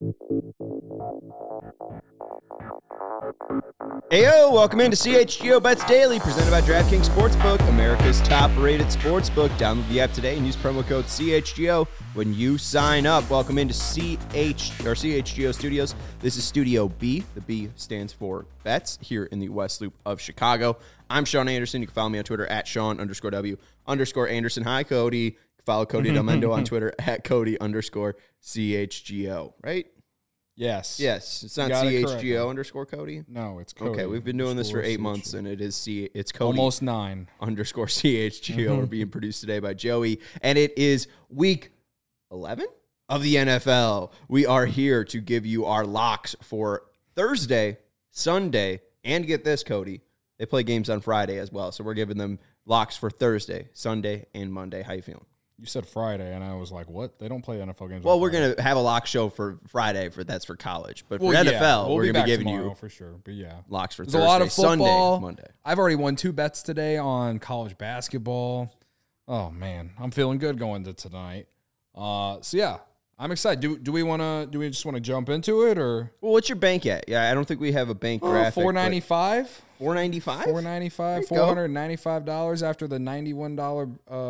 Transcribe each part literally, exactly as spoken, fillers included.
Heyo, welcome into C H G O Bets Daily, presented by DraftKings Sportsbook, America's top-rated sportsbook. Download the app today and use promo code C H G O when you sign up. Welcome into C H or C H G O Studios. This is Studio B. The B stands for Bets here in the West Loop of Chicago. I'm Sean Anderson. You can follow me on Twitter at Sean underscore W underscore Anderson. Hi, Cody. You can follow Cody Delmendo on Twitter at Cody underscore C H G O, right? Yes. Yes. It's not C H G O underscore Cody? No, it's Cody. Okay, we've been doing this for eight months, and it is C. It's Cody. Almost nine. Underscore C H G O. We're being produced today by Joey, and it is week eleven of the N F L. We are here to give you our locks for Thursday, Sunday, and get this, Cody. They play games on Friday as well, so we're giving them locks for Thursday, Sunday, and Monday. How you feeling? You said Friday, and I was like, what? They don't play N F L games Well, on we're Friday. going to have a lock show for Friday, for that's for college. But for well, N F L, yeah. we'll we're going to be giving tomorrow, you for sure. But yeah, locks for There's Thursday, a lot of football. Sunday, Monday. I've already won two bets today on college basketball. Oh, man. I'm feeling good going to tonight. Uh, so, yeah, I'm excited. Do do we want to, do we just want to jump into it, or? Well, what's your bank at? Yeah, I don't think we have a bank Oh, graphic. four ninety-five. four ninety-five? four ninety-five, four hundred ninety-five dollars after the ninety-one dollars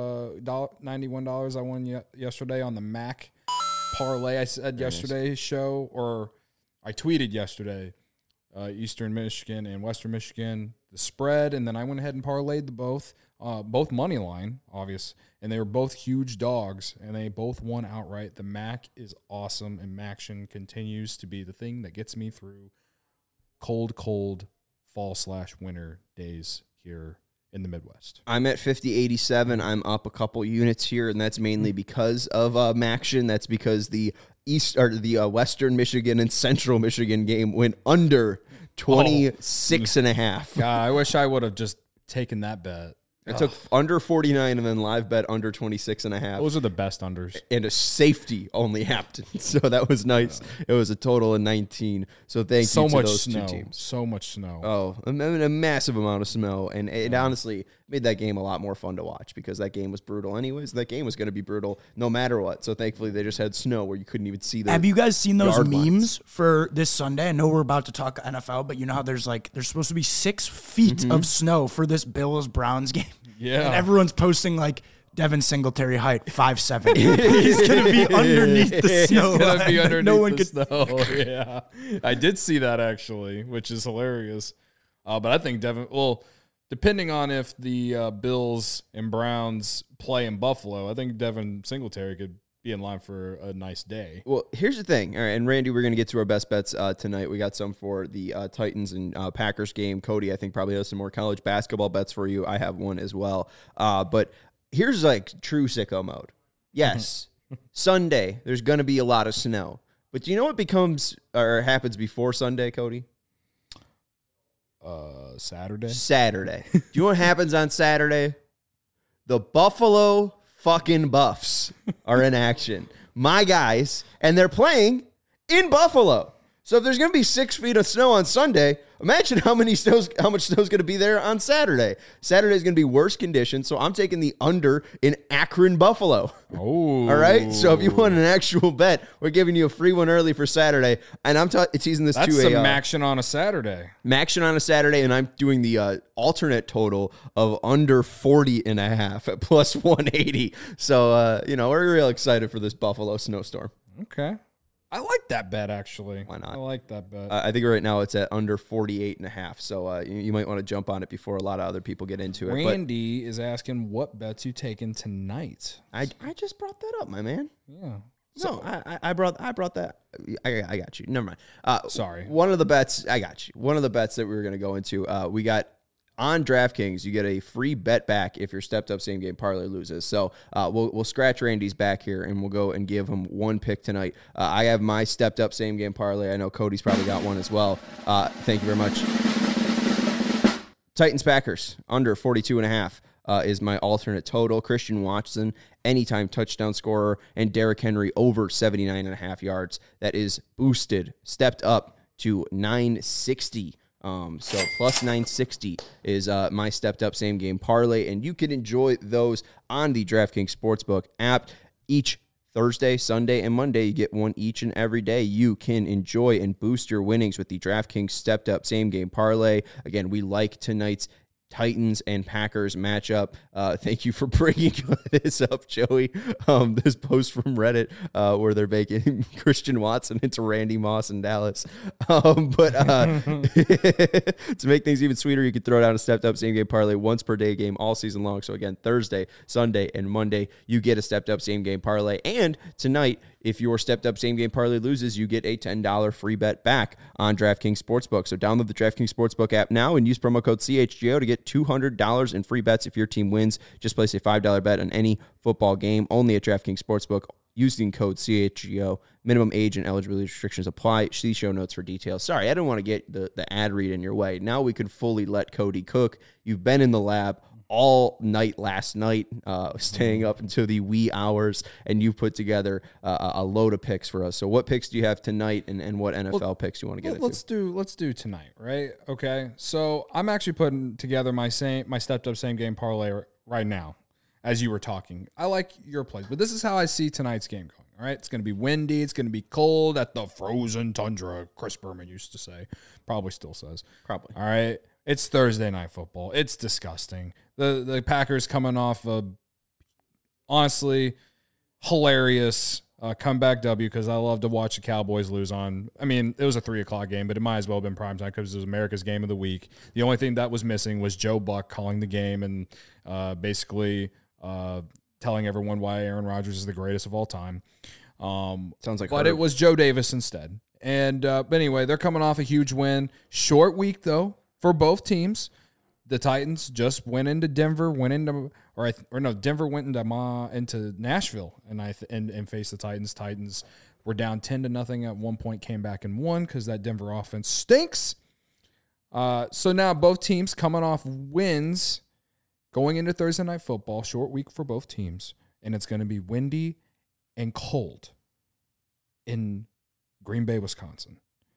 uh ninety-one dollars I won ye- yesterday on the Mac parlay. I said Very yesterday's nice. show, or I tweeted yesterday, uh, Eastern Michigan and Western Michigan, the spread, and then I went ahead and parlayed the both, uh, both money line, obvious, and they were both huge dogs, and they both won outright. The Mac is awesome, and Maction continues to be the thing that gets me through cold, cold fall slash winter days here in the Midwest. I'm at fifty eighty-seven. I'm up a couple units here, and that's mainly because of uh, Maction. That's because the East or the uh, Western Michigan and Central Michigan game went under twenty-six and a half. God, I wish I would have just taken that bet. I took under forty-nine and then live bet under twenty-six and a half. Those are the best unders. And a safety only happened. So that was nice. It was a total of nineteen. So thank So you to much those snow. two teams. So much snow. Oh, a, a massive amount of snow. And it honestly made that game a lot more fun to watch because that game was brutal anyways. That game was going to be brutal no matter what. So thankfully they just had snow where you couldn't even see the Have you guys seen those yard memes lines. for this Sunday? I know we're about to talk N F L, but you know how there's like, there's supposed to be six feet Mm-hmm. of snow for this Bills-Browns game. Yeah. And everyone's posting like Devin Singletary height, five seven. He's going to be underneath the snow. It's gonna line. be underneath no one the could. snow. Yeah, I did see that actually, which is hilarious. Uh, but I think Devin. Well, depending on if the uh, Bills and Browns play in Buffalo, I think Devin Singletary could be in line for a nice day. Well, here's the thing. All right, and Randy, we're going to get to our best bets uh, tonight. We got some for the uh, Titans and uh, Packers game. Cody, I think, probably has some more college basketball bets for you. I have one as well. Uh, but here's like true sicko mode. Yes, Sunday, there's going to be a lot of snow. But do you know what becomes or happens before Sunday, Cody? Uh, Saturday. Saturday. Do you know what happens on Saturday? The Buffalo fucking Buffs are in action. My guys, and they're playing in Buffalo. So if there's going to be six feet of snow on Sunday, imagine how many snows, how much snow is going to be there on Saturday. Saturday is going to be worse conditions, so I'm taking the under in Akron, Buffalo. Oh, All right. So if you want an actual bet, we're giving you a free one early for Saturday, and I'm t- teasing this that's to some a uh, action on a Saturday. Maction on a Saturday, and I'm doing the uh, alternate total of under forty and a half at plus one eighty. So, uh, you know, we're real excited for this Buffalo snowstorm. Okay. I like that bet, actually. Why not? I like that bet. Uh, I think right now it's at under forty-eight and a half. So uh, you, you might want to jump on it before a lot of other people get into it. Randy is asking what bets you taking tonight. But I, I just brought that up, my man. Yeah. No, I, I- I brought I brought that. I, I got you. Never mind. Uh, Sorry. One of the bets, I got you. One of the bets that we were going to go into, uh, we got on DraftKings, you get a free bet back if your stepped up same game parlay loses. So uh, we'll we'll scratch Randy's back here and we'll go and give him one pick tonight. Uh, I have my stepped up same game parlay. I know Cody's probably got one as well. Uh, thank you very much. Titans Packers under forty-two and a half. Uh, is my alternate total. Christian Watson, anytime touchdown scorer, and Derrick Henry over seventy-nine and a half yards. That is boosted, stepped up to nine sixty. Um, so plus nine sixty is uh, my stepped up same game parlay, and you can enjoy those on the DraftKings Sportsbook app. Each Thursday, Sunday, and Monday. You get one each and every day. You can enjoy and boost your winnings with the DraftKings Stepped Up Same Game Parlay. Again, we like tonight's Titans and Packers matchup. Uh, thank you for bringing this up, Joey. Um, this post from Reddit uh, where they're making Christian Watson into Randy Moss in Dallas. Um, but uh, to make things even sweeter, you can throw down a stepped up same game parlay once per day game all season long. So again, Thursday, Sunday, and Monday, you get a stepped up same game parlay. And tonight, if your stepped up same game parlay loses, you get a ten dollars free bet back on DraftKings Sportsbook. So download the DraftKings Sportsbook app now and use promo code C H G O to get two hundred dollars in free bets if your team wins. Just place a five dollars bet on any football game only at DraftKings Sportsbook using code C H G O. Minimum age and eligibility restrictions apply. See show notes for details. Sorry, I didn't want to get the, the ad read in your way. Now we can fully let Cody cook. You've been in the lab all night last night, uh, staying up until the wee hours, and you put together uh, a load of picks for us. So what picks do you have tonight, and, and what N F L well, picks do you want to get well, into? Let's do let's do tonight, right? Okay. So I'm actually putting together my same my stepped up same game parlay right now as you were talking. I like your plays, but this is how I see tonight's game going. All right, it's going to be windy. It's going to be cold at the frozen tundra. Chris Berman used to say, probably still says. Probably. All right. It's Thursday night football. It's disgusting. The the Packers coming off a honestly hilarious uh, comeback W because I love to watch the Cowboys lose on. I mean, it was a three o'clock game, but it might as well have been primetime because it was America's game of the week. The only thing that was missing was Joe Buck calling the game and uh, basically uh, telling everyone why Aaron Rodgers is the greatest of all time. Um, Sounds like But her. it was Joe Davis instead. And uh, but anyway, they're coming off a huge win. Short week, though. For both teams, the Titans just went into Denver, went into or I th- or no, Denver went into Ma, into Nashville, and I th- and, and faced the Titans. Titans were down ten to nothing at one point, came back and won because that Denver offense stinks. Uh, so now both teams coming off wins, going into Thursday night football, short week for both teams, and it's going to be windy and cold in Green Bay, Wisconsin.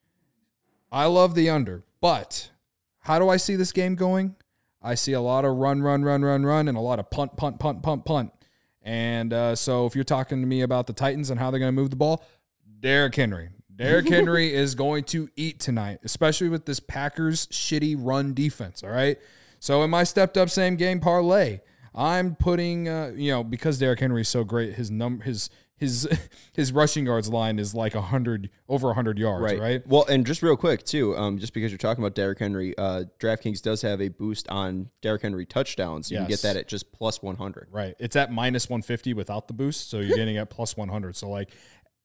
I love the under, but how do I see this game going? I see a lot of run, run, run, run, run, and a lot of punt, punt, punt, punt, punt. And uh, so if you're talking to me about the Titans and how they're going to move the ball, Derrick Henry. Derrick Henry is going to eat tonight, especially with this Packers shitty run defense, all right? So in my stepped-up same-game parlay, I'm putting, uh, you know, because Derrick Henry is so great, his num- his his his rushing yards line is like a hundred over a hundred yards, right. right? Well, and just real quick too, um, just because you're talking about Derrick Henry, uh, DraftKings does have a boost on Derrick Henry touchdowns. You yes. can get that at just plus one hundred. Right, it's at minus one fifty without the boost, so you're getting at plus one hundred. So like,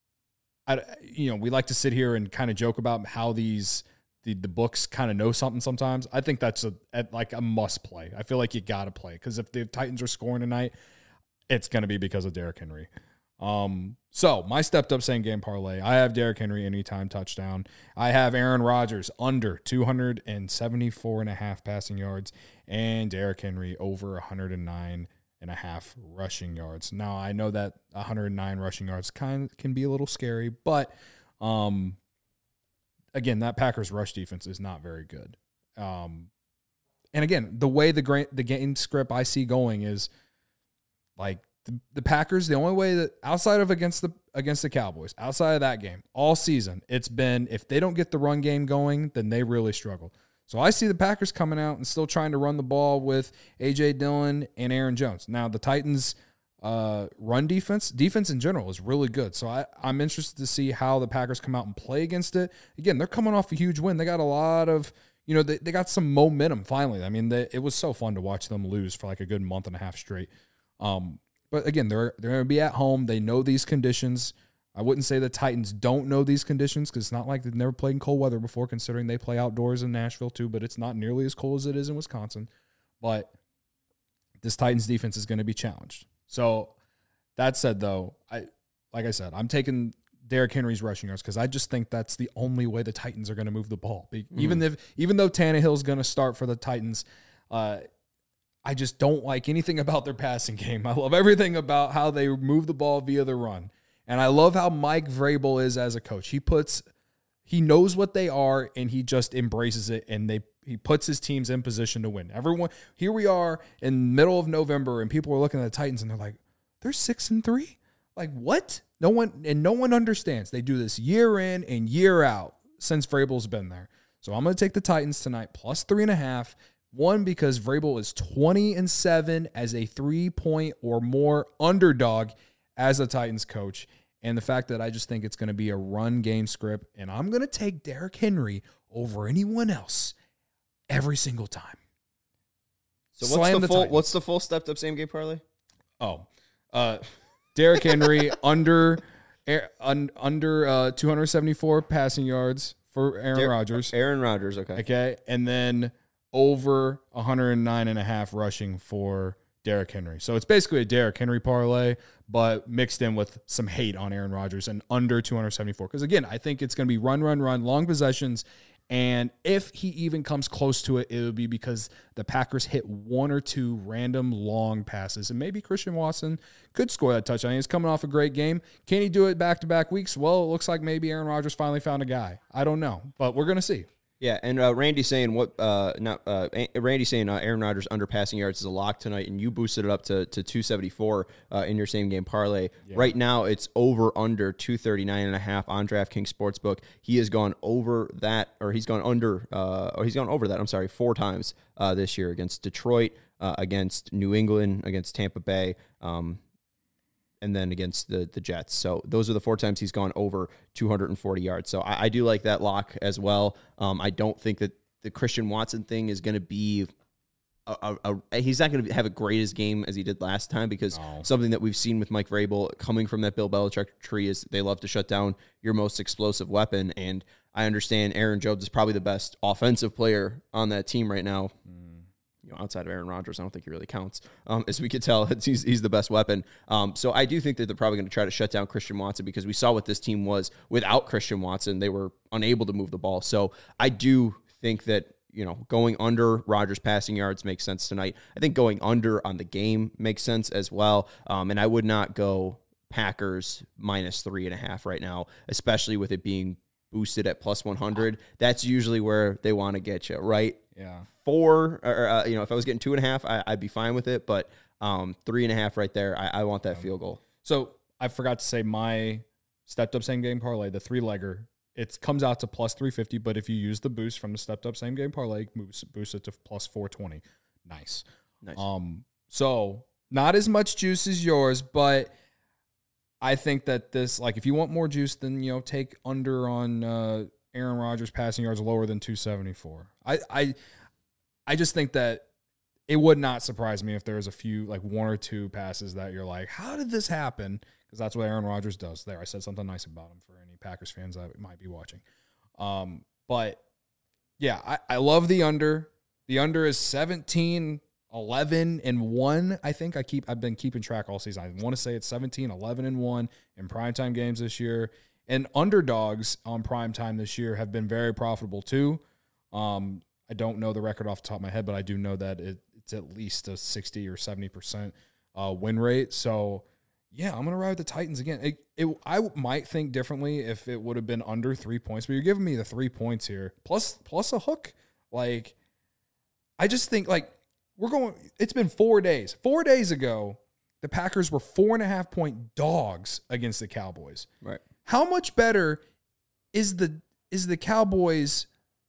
I, you know, we like to sit here and kind of joke about how these the the books kind of know something sometimes. I think that's a at like a must play. I feel like you got to play because if the Titans are scoring tonight, it's going to be because of Derrick Henry. Um, so my stepped up same game parlay. I have Derrick Henry anytime touchdown. I have Aaron Rodgers under two seventy-four and a half passing yards and Derrick Henry over one hundred nine and a half rushing yards. Now I know that one hundred nine rushing yards kind of can be a little scary, but, um, again, that Packers rush defense is not very good. Um, and again, the way the gra- the game script I see going is like, The, the Packers, the only way that outside of against the against the Cowboys, outside of that game, all season, it's been if they don't get the run game going, then they really struggle. So I see the Packers coming out and still trying to run the ball with A J Dillon and Aaron Jones. Now the Titans' uh, run defense, defense in general, is really good. So I, I'm interested to see how the Packers come out and play against it. Again, they're coming off a huge win. They got a lot of, you know, they, they got some momentum finally. I mean, they, it was so fun to watch them lose for like a good month and a half straight. Um, But again, they're they're going to be at home. They know these conditions. I wouldn't say the Titans don't know these conditions because it's not like they've never played in cold weather before, considering they play outdoors in Nashville too, but it's not nearly as cold as it is in Wisconsin. But this Titans defense is going to be challenged. So that said, though, I like I said, I'm taking Derrick Henry's rushing yards because I just think that's the only way the Titans are going to move the ball. Mm-hmm. Even if even though Tannehill's going to start for the Titans, uh, I just don't like anything about their passing game. I love everything about how they move the ball via the run. And I love how Mike Vrabel is as a coach. He puts, he knows what they are, and he just embraces it, and they he puts his teams in position to win. Everyone, here we are in the middle of November, and people are looking at the Titans, and they're like, they're six and three? Like, what? No one, and no one understands. They do this year in and year out since Vrabel's been there. So I'm going to take the Titans tonight, plus three and a half. One, because Vrabel is twenty and seven as a three-point or more underdog as a Titans coach. And the fact that I just think it's going to be a run game script, and I'm going to take Derrick Henry over anyone else every single time. So what's Slam the, the full Titans. what's the full stepped up same game parlay? Oh, uh, Derrick Henry under un, under uh, two hundred seventy-four passing yards for Aaron Der- Rodgers. Aaron Rodgers, okay. Okay, and then over one hundred nine and a half rushing for Derrick Henry. So it's basically a Derrick Henry parlay, but mixed in with some hate on Aaron Rodgers and under two hundred seventy-four. Because again, I think it's going to be run, run, run, long possessions. And if he even comes close to it, it would be because the Packers hit one or two random long passes. And maybe Christian Watson could score that touchdown. He's coming off a great game. Can he do it back-to-back weeks? Well, it looks like maybe Aaron Rodgers finally found a guy. I don't know, but we're going to see. Yeah, and uh, Randy saying what? Uh, not uh, Randy saying uh, Aaron Rodgers under passing yards is a lock tonight, and you boosted it up to to two seventy-four uh, in your same game parlay. Yeah. Right now, it's over under two thirty-nine and a half on DraftKings Sportsbook. He has gone over that, or he's gone under, uh, or he's gone over that. I'm sorry, four times uh, this year against Detroit, uh, against New England, against Tampa Bay. Um, and then against the the Jets. So those are the four times he's gone over two hundred forty yards. So I, I do like that lock as well. Um, I don't think that the Christian Watson thing is going to be a, a, a he's not going to have a great as game as he did last time, because no. something that we've seen with Mike Vrabel coming from that Bill Belichick tree is they love to shut down your most explosive weapon. And I understand Aaron Jones is probably the best offensive player on that team right now. Mm. You know, outside of Aaron Rodgers, I don't think he really counts. Um, as we could tell, it's, he's, he's the best weapon. Um, so I do think that they're probably going to try to shut down Christian Watson, because we saw what this team was without Christian Watson. They were unable to move the ball. So I do think that, you know, going under Rodgers passing yards makes sense tonight. I think going under on the game makes sense as well. Um, and I would not go Packers minus three and a half right now, especially with it being boosted at plus one hundred. That's usually where they want to get you, right? Yeah. Four, or, uh, you know, if I was getting two and a half, I, I'd be fine with it. But um, three and a half right there, I, I want that field goal. So I forgot to say my stepped up same game parlay, the three legger, it comes out to plus three fifty. But if you use the boost from the stepped up same game parlay, boost, boost it to plus four twenty. Nice. Nice. Um. So not as much juice as yours, but I think that this, like, if you want more juice, then, you know, take under on uh, Aaron Rodgers passing yards lower than two seventy-four. I, I, I just think that it would not surprise me if there was a few, like one or two passes that you're like, how did this happen? Because that's what Aaron Rodgers does. There, I said something nice about him for any Packers fans that might be watching. Um, but yeah, I, I love the under. The under is seventeen, eleven, and one. I think I keep, I've been keeping track all season. I want to say it's seventeen, eleven, and one in primetime games this year. And underdogs on primetime this year have been very profitable too. Um, I don't know the record off the top of my head, but I do know that it, it's at least a sixty or seventy percent uh, win rate. So, yeah, I'm going to ride with the Titans again. It, it, I might think differently if it would have been under three points, but you're giving me the three points here, plus plus a hook. Like, I just think, like, we're going – it's been four days. Four days ago, the Packers were four and a half point dogs against the Cowboys. Right. How much better is the is the Cowboys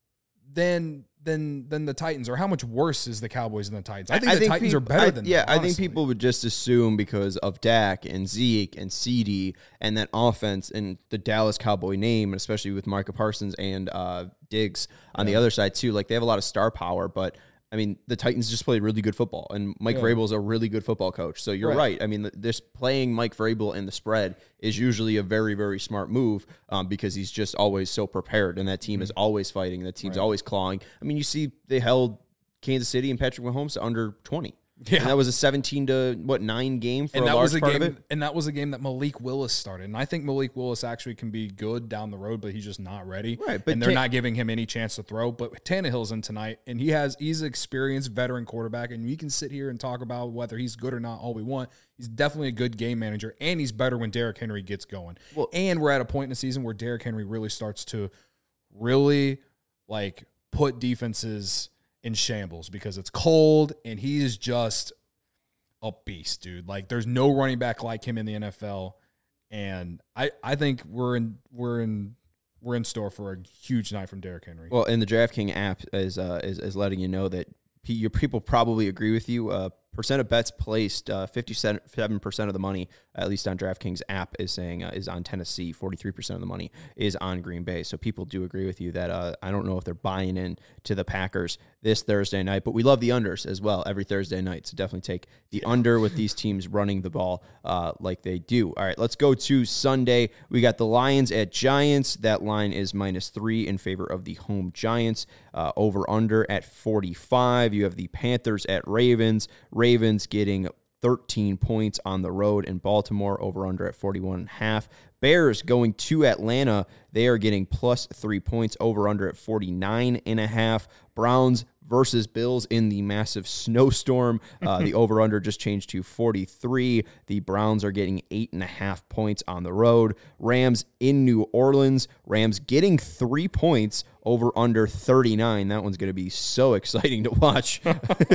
than than than the Titans, or how much worse is the Cowboys than the Titans? I think I the think Titans peop- are better I, than yeah. them, I think honestly. people would just assume because of Dak and Zeke and C D and that offense and the Dallas Cowboy name, and especially with Micah Parsons and uh, Diggs on yeah. the other side too. Like, they have a lot of star power, but I mean, the Titans just play really good football, and Mike yeah. Vrabel is a really good football coach. So you're right. right. I mean, this playing Mike Vrabel in the spread is usually a very, very smart move um, because he's just always so prepared, and that team mm-hmm. is always fighting. That team's right. always clawing. I mean, you see they held Kansas City and Patrick Mahomes to under twenty. Yeah. And that was a seventeen to what nine game for and a that large was a part game, of it. And that was a game that Malik Willis started. And I think Malik Willis actually can be good down the road, but he's just not ready. Right, but and they're Tan- not giving him any chance to throw. But Tannehill's in tonight, and he has he's an experienced veteran quarterback, and we can sit here and talk about whether he's good or not all we want. He's definitely a good game manager, and he's better when Derrick Henry gets going. Well, and we're at a point in the season where Derrick Henry really starts to really like put defenses in shambles because it's cold, and he is just a beast, dude. Like, there's no running back like him in the N F L. And I, I think we're in we're in we're in store for a huge night from Derrick Henry. Well, and the DraftKings app is uh, is is letting you know that p- your people probably agree with you. Uh, percent of bets placed, uh, fifty-seven percent of the money, at least on DraftKings app, is saying uh, is on Tennessee. forty-three percent of the money is on Green Bay. So people do agree with you that uh, I don't know if they're buying in to the Packers this Thursday night, but we love the unders as well every Thursday night. So definitely take the yeah. under with these teams running the ball uh, like they do. All right, let's go to Sunday. We got the Lions at Giants. That line is minus three in favor of the home Giants. Uh, over under at forty-five. You have the Panthers at Ravens. Ravens getting thirteen points on the road in Baltimore, over under at forty-one and a half. Bears going to Atlanta. They are getting plus three points, over under at forty-nine and a half. Browns versus Bills in the massive snowstorm. Uh, the over under just changed to forty-three. The Browns are getting eight and a half points on the road. Rams in New Orleans. Rams getting three points, over under thirty-nine. That one's going to be so exciting to watch.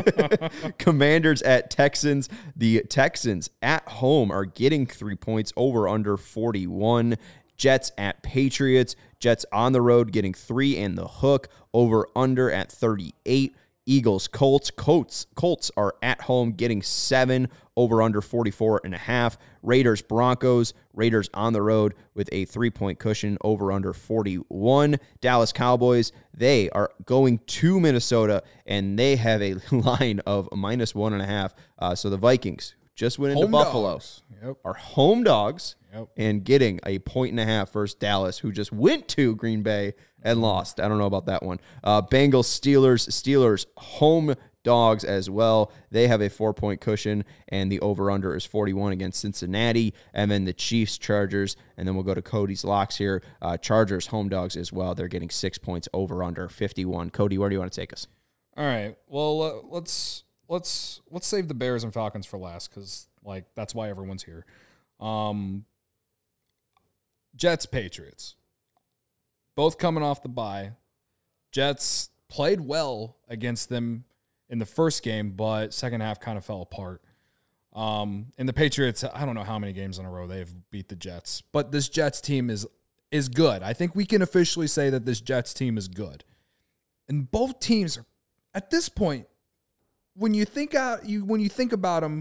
Commanders at Texans. The Texans at home are getting three points, over under forty-one. Jets at Patriots. Jets on the road getting three and the hook, over under at thirty-eight. Eagles, Colts. Colts, Colts are at home getting seven, over under forty-four and a half. Raiders, Broncos. Raiders on the road with a three-point cushion, over under forty-one. Dallas Cowboys, they are going to Minnesota, and they have a line of minus one and a half. Uh, so the Vikings just went into Home Buffalo. dogs. Yep. Are home dogs Yep. and getting a point and a half versus Dallas, who just went to Green Bay and lost. I don't know about that one. Uh, Bengals, Steelers. Steelers home dogs as well. They have a four-point cushion, and the over-under is forty-one against Cincinnati. And then the Chiefs, Chargers, and then we'll go to Cody's locks here. Uh, Chargers home dogs as well. They're getting six points, over-under fifty-one. Cody, where do you want to take us? All right. Well, uh, let's let's let's save the Bears and Falcons for last, because like that's why everyone's here. Um, Jets, Patriots, both coming off the bye. Jets played well against them in the first game, but second half kind of fell apart. Um, and the Patriots, I don't know how many games in a row they've beat the Jets, but this Jets team is is good. I think we can officially say that this Jets team is good. And both teams are, at this point, when you think out, you when you think about them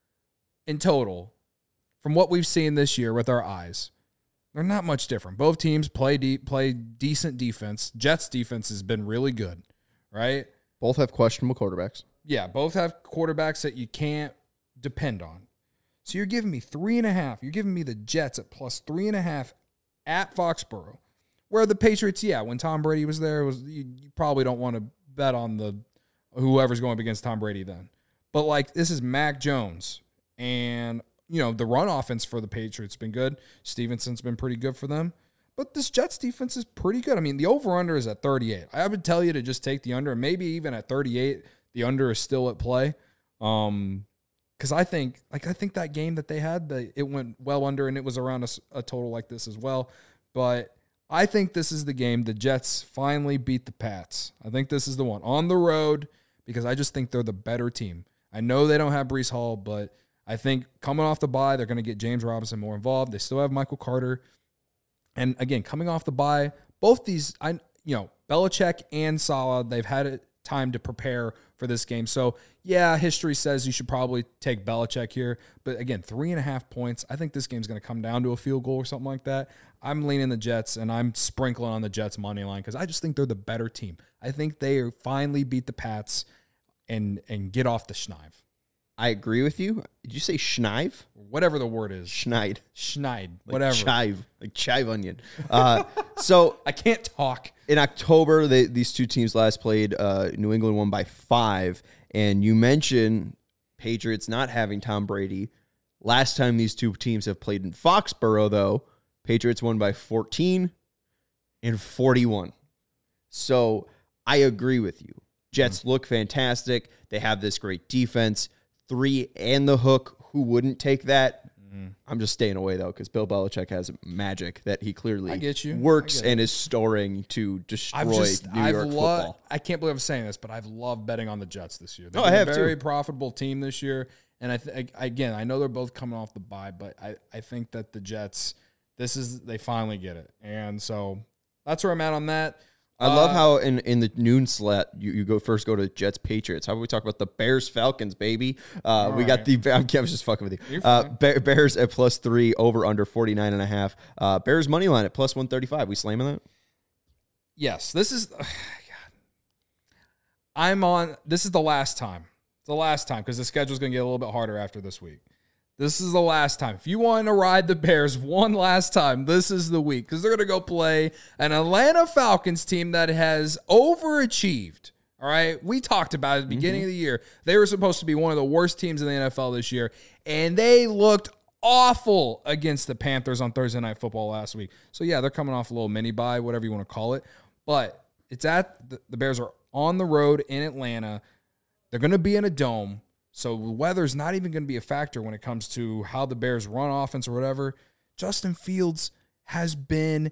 in total, from what we've seen this year with our eyes, they're not much different. Both teams play deep, play decent defense. Jets defense has been really good, right? Both have questionable quarterbacks. Yeah, both have quarterbacks that you can't depend on. So you're giving me three and a half. You're giving me the Jets at plus three and a half at Foxborough, where the Patriots, yeah, when Tom Brady was there, it was you, you probably don't want to bet on the whoever's going up against Tom Brady then. But like this is Mac Jones, and you know the run offense for the Patriots has been good. Stevenson's been pretty good for them. But this Jets defense is pretty good. I mean, the over-under is at thirty-eight. I would tell you to just take the under. Maybe even at thirty-eight, the under is still at play. Um, because I think, like, I think that game that they had, the, it went well under, and it was around a, a total like this as well. But I think this is the game. The Jets finally beat the Pats. I think this is the one. On the road, because I just think they're the better team. I know they don't have Breece Hall, but I think coming off the bye, they're going to get James Robinson more involved. They still have Michael Carter. And again, coming off the bye, both these, I you know, Belichick and Saleh, they've had time to prepare for this game. So, yeah, history says you should probably take Belichick here. But again, three and a half points. I think this game's going to come down to a field goal or something like that. I'm leaning the Jets, and I'm sprinkling on the Jets' money line because I just think they're the better team. I think they finally beat the Pats and and get off the schneid. I agree with you. Did you say schneid? Whatever the word is. Schneid. Schneid. Like Whatever. Chive. Like chive onion. Uh, so I can't talk. In October, they, these two teams last played. Uh, New England won by five. And you mentioned Patriots not having Tom Brady. Last time these two teams have played in Foxborough, though, Patriots won by fourteen and forty-one. So I agree with you. Jets mm-hmm. look fantastic. They have this great defense. Three and the hook. Who wouldn't take that? Mm. I'm just staying away though because Bill Belichick has magic that he clearly I get you. works I get and is storing to destroy I've just, New I've York lo- football. I can't believe I'm saying this, but I've loved betting on the Jets this year. They've Oh, I been have a very too. profitable team this year. And I th- again, I know they're both coming off the bye, but I, I think that the Jets, this is, they finally get it. And so that's where I'm at on that. I love Uh, how in, in the noon slot you, you go first go to Jets Patriots. How about we talk about the Bears Falcons, baby? Uh, we got right. the I'm, I was just fucking with you. You're Uh, fine. Bear, Bears at plus three, over under forty-nine and a half. Uh, Bears money line at plus one thirty-five. We slamming that? Yes, this is, God. I'm on, this is the last time. It's the last time because the schedule's going to get a little bit harder after this week. This is the last time. If you want to ride the Bears one last time, this is the week because they're going to go play an Atlanta Falcons team that has overachieved. All right. We talked about it at the beginning Mm-hmm. of the year. They were supposed to be one of the worst teams in the N F L this year, and they looked awful against the Panthers on Thursday Night Football last week. So, yeah, they're coming off a little mini bye, whatever you want to call it. But it's at the, the Bears are on the road in Atlanta. They're going to be in a dome, so the weather's not even going to be a factor when it comes to how the Bears run offense or whatever. Justin Fields has been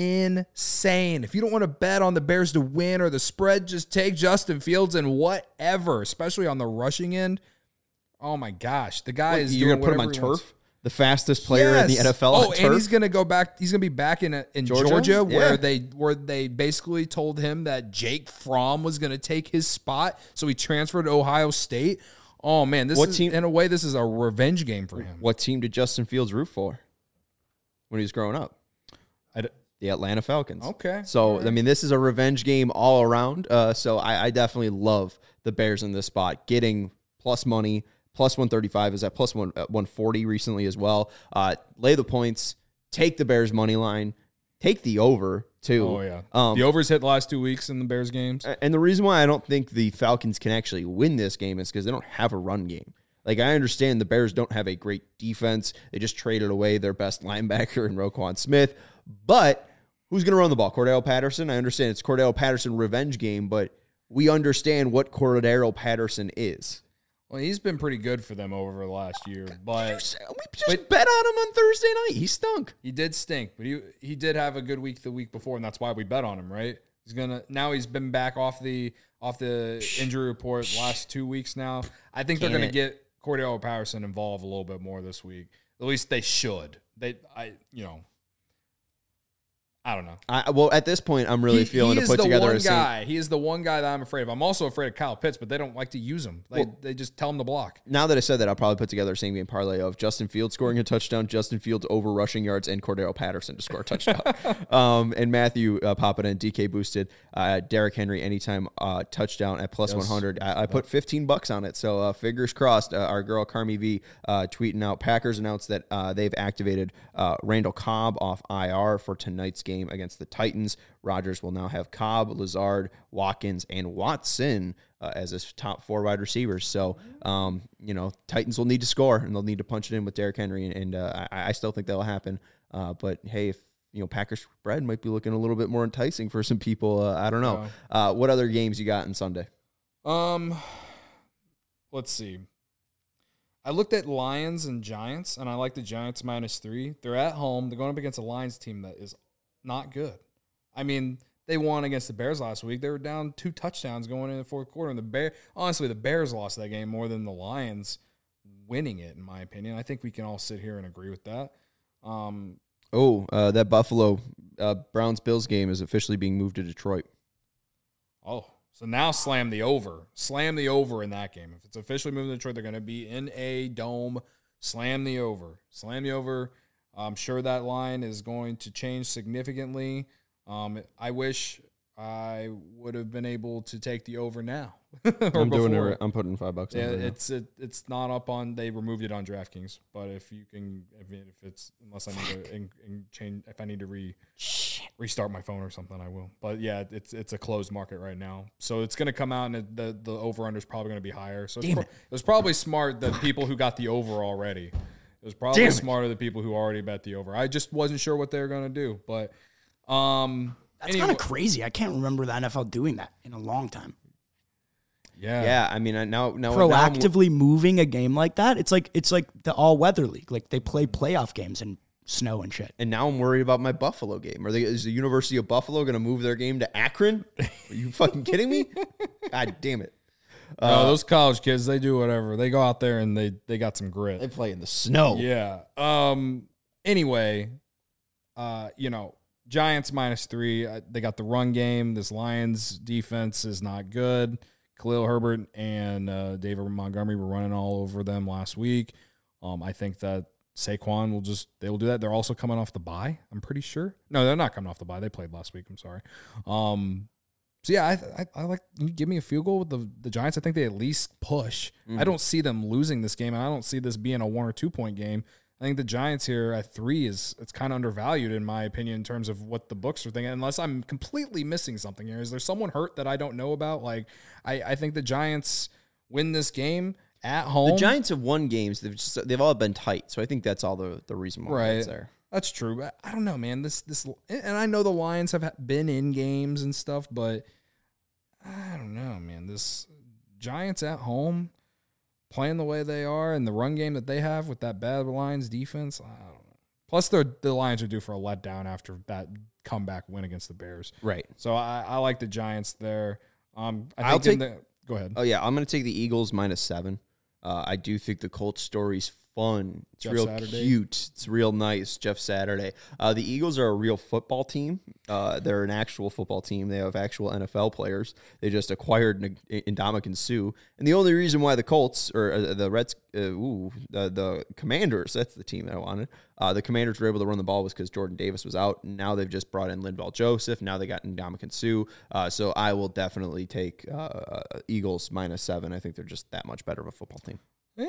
insane. If you don't want to bet on the Bears to win or the spread, just take Justin Fields and whatever, especially on the rushing end. Oh, my gosh. The guy What, is you're doing gonna put him on whatever he wants. turf? The fastest player in the Yes. N F L Oh, on and turf? he's gonna go back. He's gonna be back in in Georgia? Georgia, where Yeah. they where they basically told him that Jake Fromm was gonna take his spot, so he transferred to Ohio State. Oh man, this What is team- in a way this is a revenge game for him. What team did Justin Fields root for when he was growing up? I d- The Atlanta Falcons. Okay. So, All right. I mean, this is a revenge game all around. Uh, so, I, I definitely love the Bears in this spot. Getting plus money, plus one thirty-five is at plus one, uh, one forty recently as well. Uh, lay the points, take the Bears money line, take the over, too. Oh yeah, Um, the overs hit the last two weeks in the Bears games. And the reason why I don't think the Falcons can actually win this game is because they don't have a run game. Like, I understand the Bears don't have a great defense. They just traded away their best linebacker in Roquan Smith. But who's going to run the ball? Cordell Patterson? I understand it's Cordell Patterson revenge game, but we understand what Cordell Patterson is. Well, he's been pretty good for them over the last year, but We just but- bet on him on Thursday night. He stunk. he did stink. But he he did have a good week the week before, and that's why we bet on him, right? He's gonna now he's been back off the off the injury report the last two weeks now. I think they're Damn gonna it. get Cordell Patterson involved a little bit more this week. At least they should. They I you know I don't know. I, well, at this point, I'm really he, feeling he to is put the together one a Saint- guy. He is the one guy that I'm afraid of. I'm also afraid of Kyle Pitts, but they don't like to use him. They Well- they just tell him to block. Now that I said that, I'll probably put together a same game parlay of Justin Fields scoring a touchdown, Justin Fields over rushing yards, and Cordell Patterson to score a touchdown. um, and Matthew uh, popping in, D K boosted, uh, Derrick Henry anytime uh, touchdown at plus Yes. one hundred. I, I put fifteen bucks on it, so uh, fingers crossed. Uh, our girl Carmi V uh, tweeting out, Packers announced that uh, they've activated uh, Randall Cobb off I R for tonight's game against the Titans. Rodgers will now have Cobb, Lazard, Watkins, and Watson uh, as his top four wide receivers. So, um, you know, Titans will need to score, and they'll need to punch it in with Derrick Henry, and, and uh, I, I still think that'll happen. Uh, but, hey, if, you know, Packers spread might be looking a little bit more enticing for some people. Uh, I don't know. Uh, what other games you got on Sunday? Um, let's see. I looked at Lions and Giants, and I like the Giants minus three. They're at home. They're going up against a Lions team that is not good. I mean, they won against the Bears last week. They were down two touchdowns going in the fourth quarter, and the Bear, honestly, the Bears lost that game more than the Lions winning it, in my opinion. I think we can all sit here and agree with that. Um, Oh, uh, that Buffalo uh, Browns-Bills game is officially being moved to Detroit. oh, so now slam the over. Slam the over in that game. If it's officially moving to Detroit, they're going to be in a dome. Slam the over. Slam the over. I'm sure that line is going to change significantly. Um, I wish I would have been able to take the over now. or I'm doing before. it. I'm putting five bucks on Yeah, it. right now. it's it, it's not up on. They removed it on DraftKings, but if you can, if, it- if it's unless I need to in, in change, if I need to re restart my phone or something, I will. But yeah, it's it's a closed market right now, so it's going to come out, and it, the the over under is probably going to be higher. So it's Damn pro- it. it was probably smart the people who got the over already. It was probably Damn it. smarter the people who already bet the over. I just wasn't sure what they were going to do, but um, That's anyway- kind of crazy. I can't remember the N F L doing that in a long time. Yeah. Yeah, I mean, I- now, now Proactively now moving a game like that, it's like it's like the all-weather league. Like, they play playoff games in snow and shit. And now I'm worried about my Buffalo game. Are they? Is the University of Buffalo going to move their game to Akron? Are you fucking kidding me? God damn it! Uh, no, those college kids, they do whatever. They go out there and they they got some grit. They play in the snow. Yeah. Um. Anyway, uh, you know, Giants minus three. Uh, they got the run game. This Lions defense is not good. Khalil Herbert and uh, David Montgomery were running all over them last week. Um, I think that Saquon will just, they will do that. They're also coming off the bye, I'm pretty sure. No, they're not coming off the bye. They played last week. I'm sorry. Um, so, yeah, I, I, I like, you give me a field goal with the, the Giants. I think they at least push. Mm-hmm. I don't see them losing this game, and I don't see this being a one or two point game. I think the Giants here at three is, it's kind of undervalued in my opinion in terms of what the books are thinking, unless I'm completely missing something here. Is there someone hurt that I don't know about? Like, I, I think the Giants win this game at home. The Giants have won games. They've just, they've all been tight. So I think that's all the, the reason why right. it's there. That's true. But I don't know, man. This, this, and I know the Lions have been in games and stuff, but I don't know, man. This Giants at home, playing the way they are and the run game that they have with that bad Lions defense, I don't know. Plus, the Lions are due for a letdown after that comeback win against the Bears. Right. So I, I like the Giants there. Um, I think I'll take. The, go ahead. Oh yeah, I'm going to take the Eagles minus seven. Uh, I do think the Colts story's fun. It's Jeff real Saturday. cute. It's real nice. Jeff Saturday. Uh, the Eagles are a real football team. Uh, they're an actual football team. They have actual N F L players. They just acquired Ndamukong Suh. And the only reason why the Colts, or uh, the Reds, uh, ooh, the, the Commanders, that's the team that I wanted. Uh, the Commanders were able to run the ball was because Jordan Davis was out. Now they've just brought in Linval Joseph. Now they got Ndamukong Suh. Uh, so I will definitely take uh, Eagles minus seven. I think they're just that much better of a football team.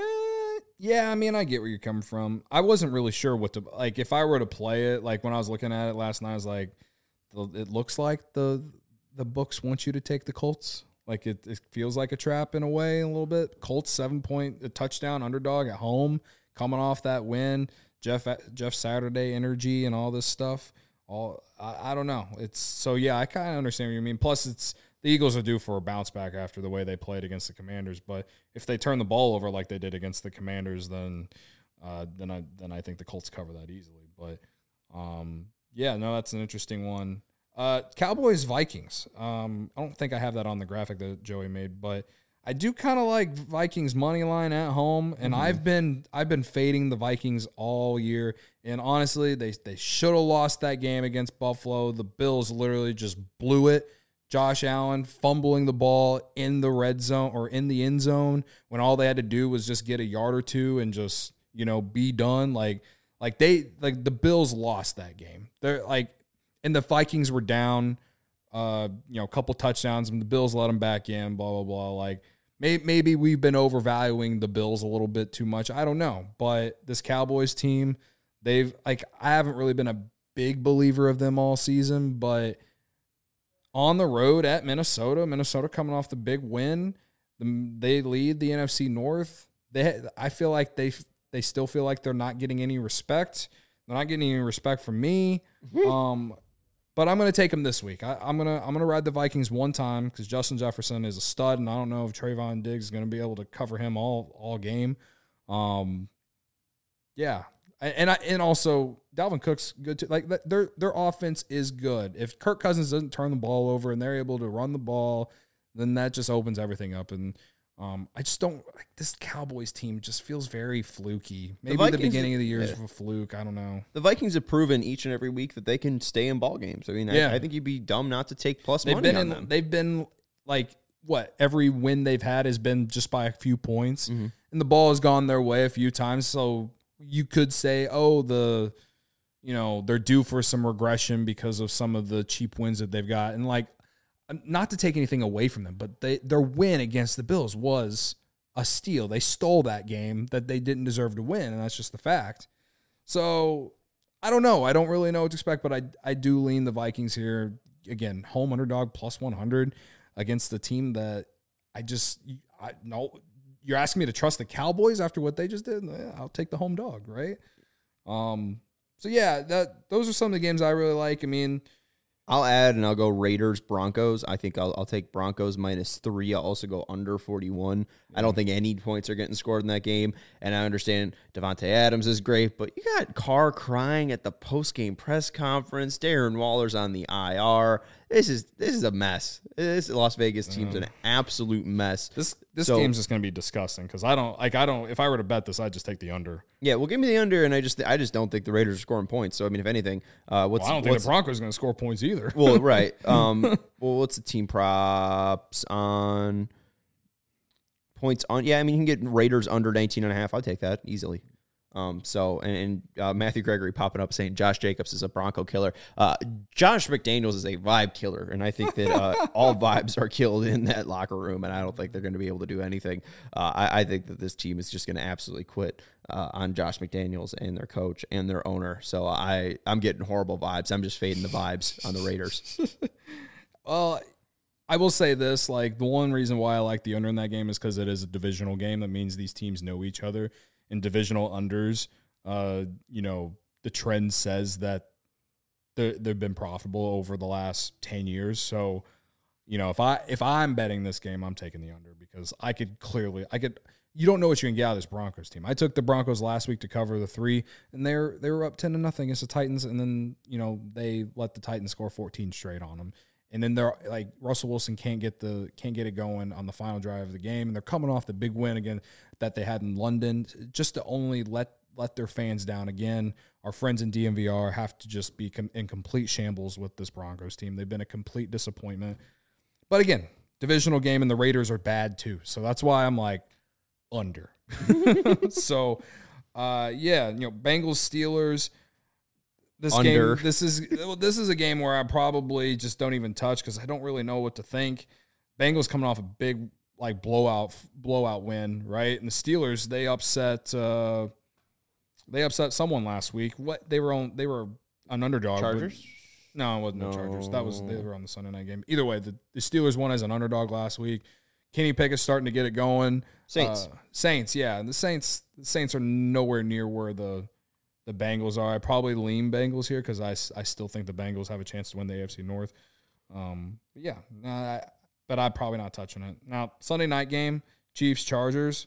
Eh, yeah, I mean, I get where you're coming from. I wasn't really sure what to, like, if I were to play it, like, when I was looking at it last night, I was like, it looks like the the books want you to take the Colts. Like, it, it feels like a trap in a way a little bit. Colts, seven-point a touchdown underdog at home, coming off that win. Jeff Jeff Saturday energy and all this stuff. All I, I don't know. It's so, yeah, I kind of understand what you mean. Plus, it's the Eagles are due for a bounce back after the way they played against the Commanders. But if they turn the ball over like they did against the Commanders, then uh, then I then I think the Colts cover that easily. But um, yeah, no, that's an interesting one. Uh, Cowboys Vikings. Um, I don't think I have that on the graphic that Joey made, but I do kind of like Vikings money line at home, and mm-hmm. I've been I've been fading the Vikings all year. And honestly, they they should have lost that game against Buffalo. The Bills literally just blew it. Josh Allen fumbling the ball in the red zone or in the end zone when all they had to do was just get a yard or two and just, you know, be done. Like, like they, like the Bills lost that game. They're like, and the Vikings were down, uh, you know, a couple touchdowns and the Bills let them back in, blah, blah, blah. Like maybe, maybe we've been overvaluing the Bills a little bit too much. I don't know. But this Cowboys team, they've like, I haven't really been a big believer of them all season, but on the road at Minnesota, Minnesota coming off the big win, they lead the N F C North. They, I feel like they they still feel like they're not getting any respect. They're not getting any respect from me. Um, but I'm going to take them this week. I, I'm gonna I'm gonna ride the Vikings one time because Justin Jefferson is a stud, and I don't know if Trayvon Diggs is going to be able to cover him all all game. Um, yeah. And I and also Dalvin Cook's good too. Like their their offense is good. If Kirk Cousins doesn't turn the ball over and they're able to run the ball, then that just opens everything up. And um, I just don't like this Cowboys team. Just feels very fluky. Maybe the, Vikings, the beginning of the year is yeah. a fluke. I don't know. The Vikings have proven each and every week that they can stay in ball games. I mean, yeah. I, I think you'd be dumb not to take plus they've money been on in, them. They've been like what every win they've had has been just by a few points, mm-hmm. and the ball has gone their way a few times. So you could say, oh, the, you know, they're due for some regression because of some of the cheap wins that they've got. And, like, not to take anything away from them, but they, their win against the Bills was a steal. They stole that game that they didn't deserve to win, and that's just the fact. So, I don't know. I don't really know what to expect, but I, I do lean the Vikings here. Again, home underdog plus one hundred against the team that I just I no. You're asking me to trust the Cowboys after what they just did? Yeah, I'll take the home dog, right? Um. So, yeah, that those are some of the games I really like. I mean, I'll add and I'll go Raiders Broncos. I think I'll I'll take Broncos minus three. I'll also go under forty-one. I don't think any points are getting scored in that game. And I understand Devontae Adams is great, but you got Carr crying at the post-game press conference. Darren Waller's on the I R. This is this is a mess. This Las Vegas team's an absolute mess. This this So- game's just going to be disgusting because I don't like I don't if I were to bet this I'd just take the under. Yeah, well, give me the under, and I just I just don't think the Raiders are scoring points. So I mean, if anything, uh, what's Well, I don't think what's, the Broncos are going to score points either. well, right. Um, well, what's the team props on points on? Yeah, I mean, you can get Raiders under nineteen and a half. I'll take that easily. Um, so, and, and uh, Matthew Gregory popping up saying Josh Jacobs is a Bronco killer. Uh, Josh McDaniels is a vibe killer, and I think that uh, all vibes are killed in that locker room, and I don't think they're going to be able to do anything. Uh, I, I think that this team is just going to absolutely quit uh, on Josh McDaniels and their coach and their owner. So I, I'm getting horrible vibes. I'm just fading the vibes on the Raiders. Well, I will say this, like the one reason why I like the under in that game is because it is a divisional game. That means these teams know each other. In divisional unders, uh, you know, the trend says that they've been profitable over the last ten years. So, you know, if I if I'm betting this game, I'm taking the under because I could clearly I could. You don't know what you can get out of this Broncos team. I took the Broncos last week to cover the three, and they're they were up ten to nothing against the Titans, and then you know they let the Titans score fourteen straight on them. And then they're like Russell Wilson can't get the can't get it going on the final drive of the game, and they're coming off the big win again that they had in London, just to only let let their fans down again. Our friends in D M V R have to just be com- in complete shambles with this Broncos team. They've been a complete disappointment. But again, divisional game, and the Raiders are bad too, so that's why I'm like under. so, uh, yeah, you know, Bengals Steelers. This Under. game, this is this is a game where I probably just don't even touch because I don't really know what to think. Bengals coming off a big like blowout blowout win, right? And the Steelers they upset uh, they upset someone last week. What they were on they were an underdog. Chargers? But, no, it wasn't No. the Chargers. That was they were on the Sunday night game. Either way, the, the Steelers won as an underdog last week. Kenny Pickett's starting to get it going. Saints. Uh, Saints, yeah. And the Saints the Saints are nowhere near where the The Bengals are. I probably lean Bengals here because I, I still think the Bengals have a chance to win the A F C North. Um, but yeah, nah, I, but I'm probably not touching it. Now, Sunday night game, Chiefs, Chargers.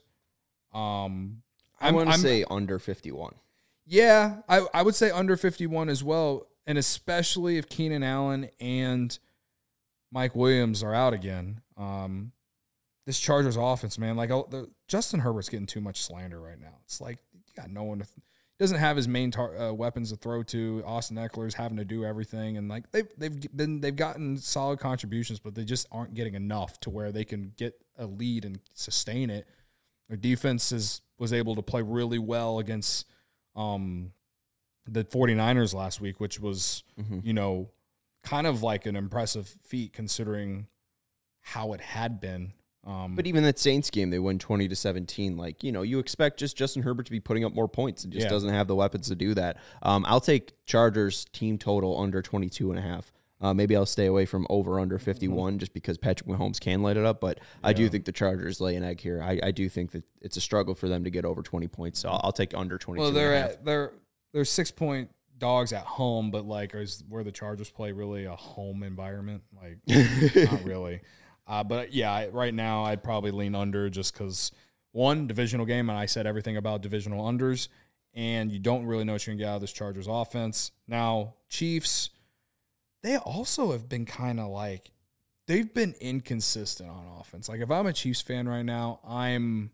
Um, I want to say under fifty-one. Yeah, I, I would say under fifty-one as well, and especially if Keenan Allen and Mike Williams are out again. Um, this Chargers offense, man, like oh, the, Justin Herbert's getting too much slander right now. It's like you got no one to – doesn't have his main tar- uh, weapons to throw to. Austin Eckler's having to do everything, and like they've they've been they've gotten solid contributions, but they just aren't getting enough to where they can get a lead and sustain it. Their defense is was able to play really well against um, the 49ers last week, which was Mm-hmm. you know kind of like an impressive feat considering how it had been. Um, But even that Saints game, they win twenty to seventeen. Like, you know, you expect just Justin Herbert to be putting up more points. It just Yeah. doesn't have the weapons to do that. Um, I'll take Chargers team total under twenty-two and a half. Uh, maybe I'll stay away from over under fifty-one just because Patrick Mahomes can light it up. But I do Yeah. think the Chargers lay an egg here. I, I do think that it's a struggle for them to get over twenty points. So I'll, I'll take under twenty-two well, and they're a half. at they're they're six point dogs at home, but like is where the Chargers play really a home environment? Like not really. Uh, but yeah, I, right now I'd probably lean under just because one divisional game, and I said everything about divisional unders, and you don't really know what you can get out of this Chargers offense. Now Chiefs, they also have been kind of like they've been inconsistent on offense. Like if I'm a Chiefs fan right now, I'm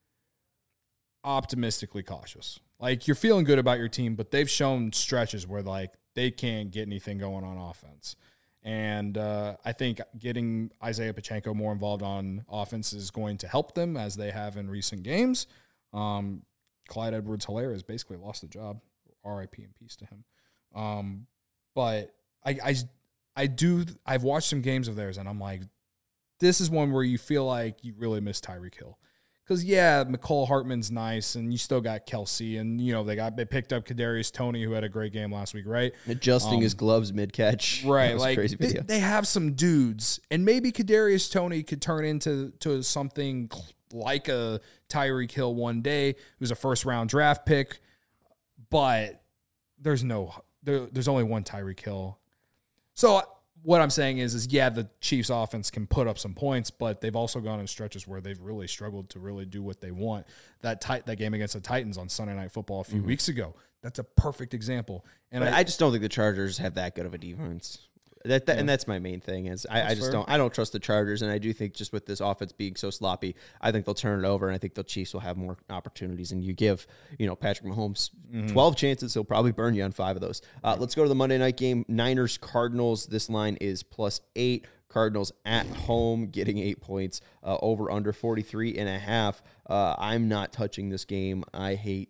optimistically cautious. Like you're feeling good about your team, but they've shown stretches where like they can't get anything going on offense. And uh, I think getting Isaiah Pacheco more involved on offense is going to help them as they have in recent games. Um, Clyde Edwards-Helaire has basically lost the job. R I P and peace to him. Um, but I, I, I do. I've watched some games of theirs, and I'm like, this is one where you feel like you really miss Tyreek Hill. Because, yeah, McCole Hartman's nice, and you still got Kelsey, and, you know, they got they picked up Kadarius Toney, who had a great game last week, right? Adjusting Um, his gloves mid-catch. Right, That was a like crazy they, video. they have some dudes, and maybe Kadarius Toney could turn into to something like a Tyreek Hill one day, who's a first-round draft pick, but there's no there, there's only one Tyreek Hill. So what I'm saying is, is yeah, the Chiefs offense can put up some points, but they've also gone in stretches where they've really struggled to really do what they want. That tit- that game against the Titans on Sunday Night Football a few mm-hmm. weeks ago, that's a perfect example. And I, I just don't think the Chargers have that good of a defense. That, that yeah. And that's my main thing is I, I just fair. don't I don't trust the Chargers, and I do think just with this offense being so sloppy, I think they'll turn it over, and I think the Chiefs will have more opportunities. And you give you know Patrick Mahomes mm-hmm. twelve chances, he'll probably burn you on five of those. Uh, let's go to the Monday night game. Niners Cardinals. This line is plus eight. Cardinals at home getting eight points. Uh, over under forty-three and a half. Uh, I'm not touching this game. I hate.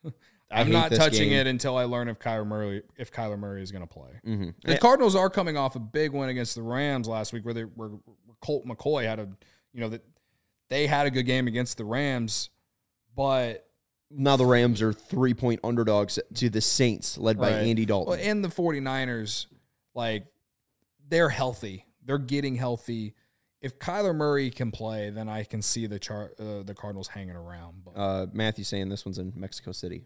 I I'm hate not touching game. it until I learn if Kyler Murray if Kyler Murray is going to play. Mm-hmm. The yeah. Cardinals are coming off a big win against the Rams last week, where they where Colt McCoy had a you know that they had a good game against the Rams, but now the Rams are three point underdogs to the Saints, led by right. Andy Dalton. Well, and the 49ers, like they're healthy, they're getting healthy. If Kyler Murray can play, then I can see the char- uh, the Cardinals hanging around. But. Uh, Matthew saying this one's in Mexico City.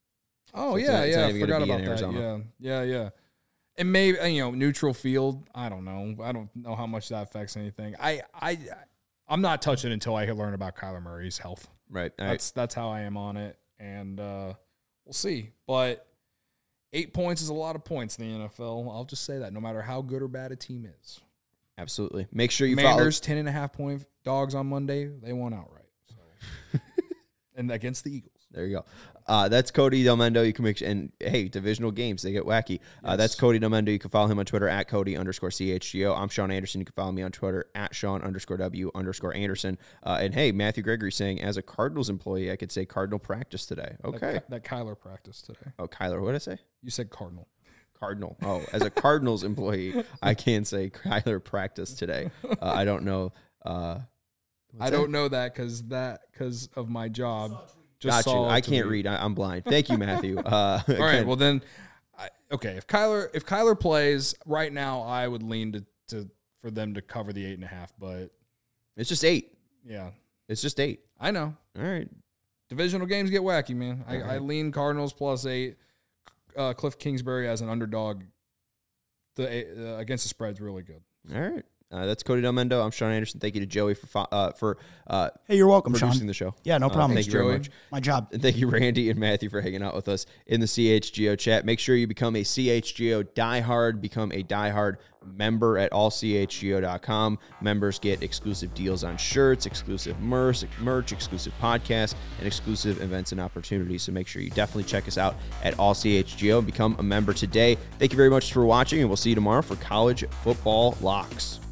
Oh, so yeah, not, yeah. I forgot about that. Arizona. Yeah, yeah, yeah. And maybe, you know, neutral field. I don't know. I don't know how much that affects anything. I, I, I'm not touching it until I learn about Kyler Murray's health. Right. All that's right. that's how I am on it. And uh, we'll see. But eight points is a lot of points in the N F L. I'll just say that, no matter how good or bad a team is. Absolutely. Make sure you Commanders, follow. ten and a half point dogs on Monday. They won outright. So. And against the Eagles. There you go. Uh, that's Cody Delmendo. You can make and hey, divisional games, they get wacky. Uh, yes. That's Cody Delmendo. You can follow him on Twitter at Cody underscore C H G O. I'm Sean Anderson. You can follow me on Twitter at Sean underscore W underscore Anderson. Uh, and hey, Matthew Gregory saying, as a Cardinals employee, I could say Cardinal practice today. Okay. That, that Kyler practice today. Oh, Kyler. What did I say? You said Cardinal. Cardinal. Oh, as a Cardinals employee, I can say Kyler practice today. Uh, I don't know. Uh, I don't that? know that because that because of my job. Just Got you. I can't read. I, I'm blind. Thank you, Matthew. Uh, All right. Well, then, I, okay. If Kyler if Kyler plays right now, I would lean to, to for them to cover the eight and a half. But it's just eight. Yeah, it's just eight. I know. All right. Divisional games get wacky, man. I, right. I lean Cardinals plus eight. Uh, Cliff Kingsbury as an underdog. The uh, against the spread's really good. All right. Uh, that's Cody Delmendo. I'm Sean Anderson. Thank you to Joey for uh, for uh, hey, you're welcome, producing Sean. the show. Yeah, no problem. Uh, thank Thanks, you very Joey. much. My job. And thank you, Randy and Matthew, for hanging out with us in the C H G O chat. Make sure you become a C H G O diehard. Become a diehard member at all c h g o dot com. Members get exclusive deals on shirts, exclusive merch, merch, exclusive podcasts, and exclusive events and opportunities. So make sure you definitely check us out at all c h g o and become a member today. Thank you very much for watching, and we'll see you tomorrow for College Football Locks.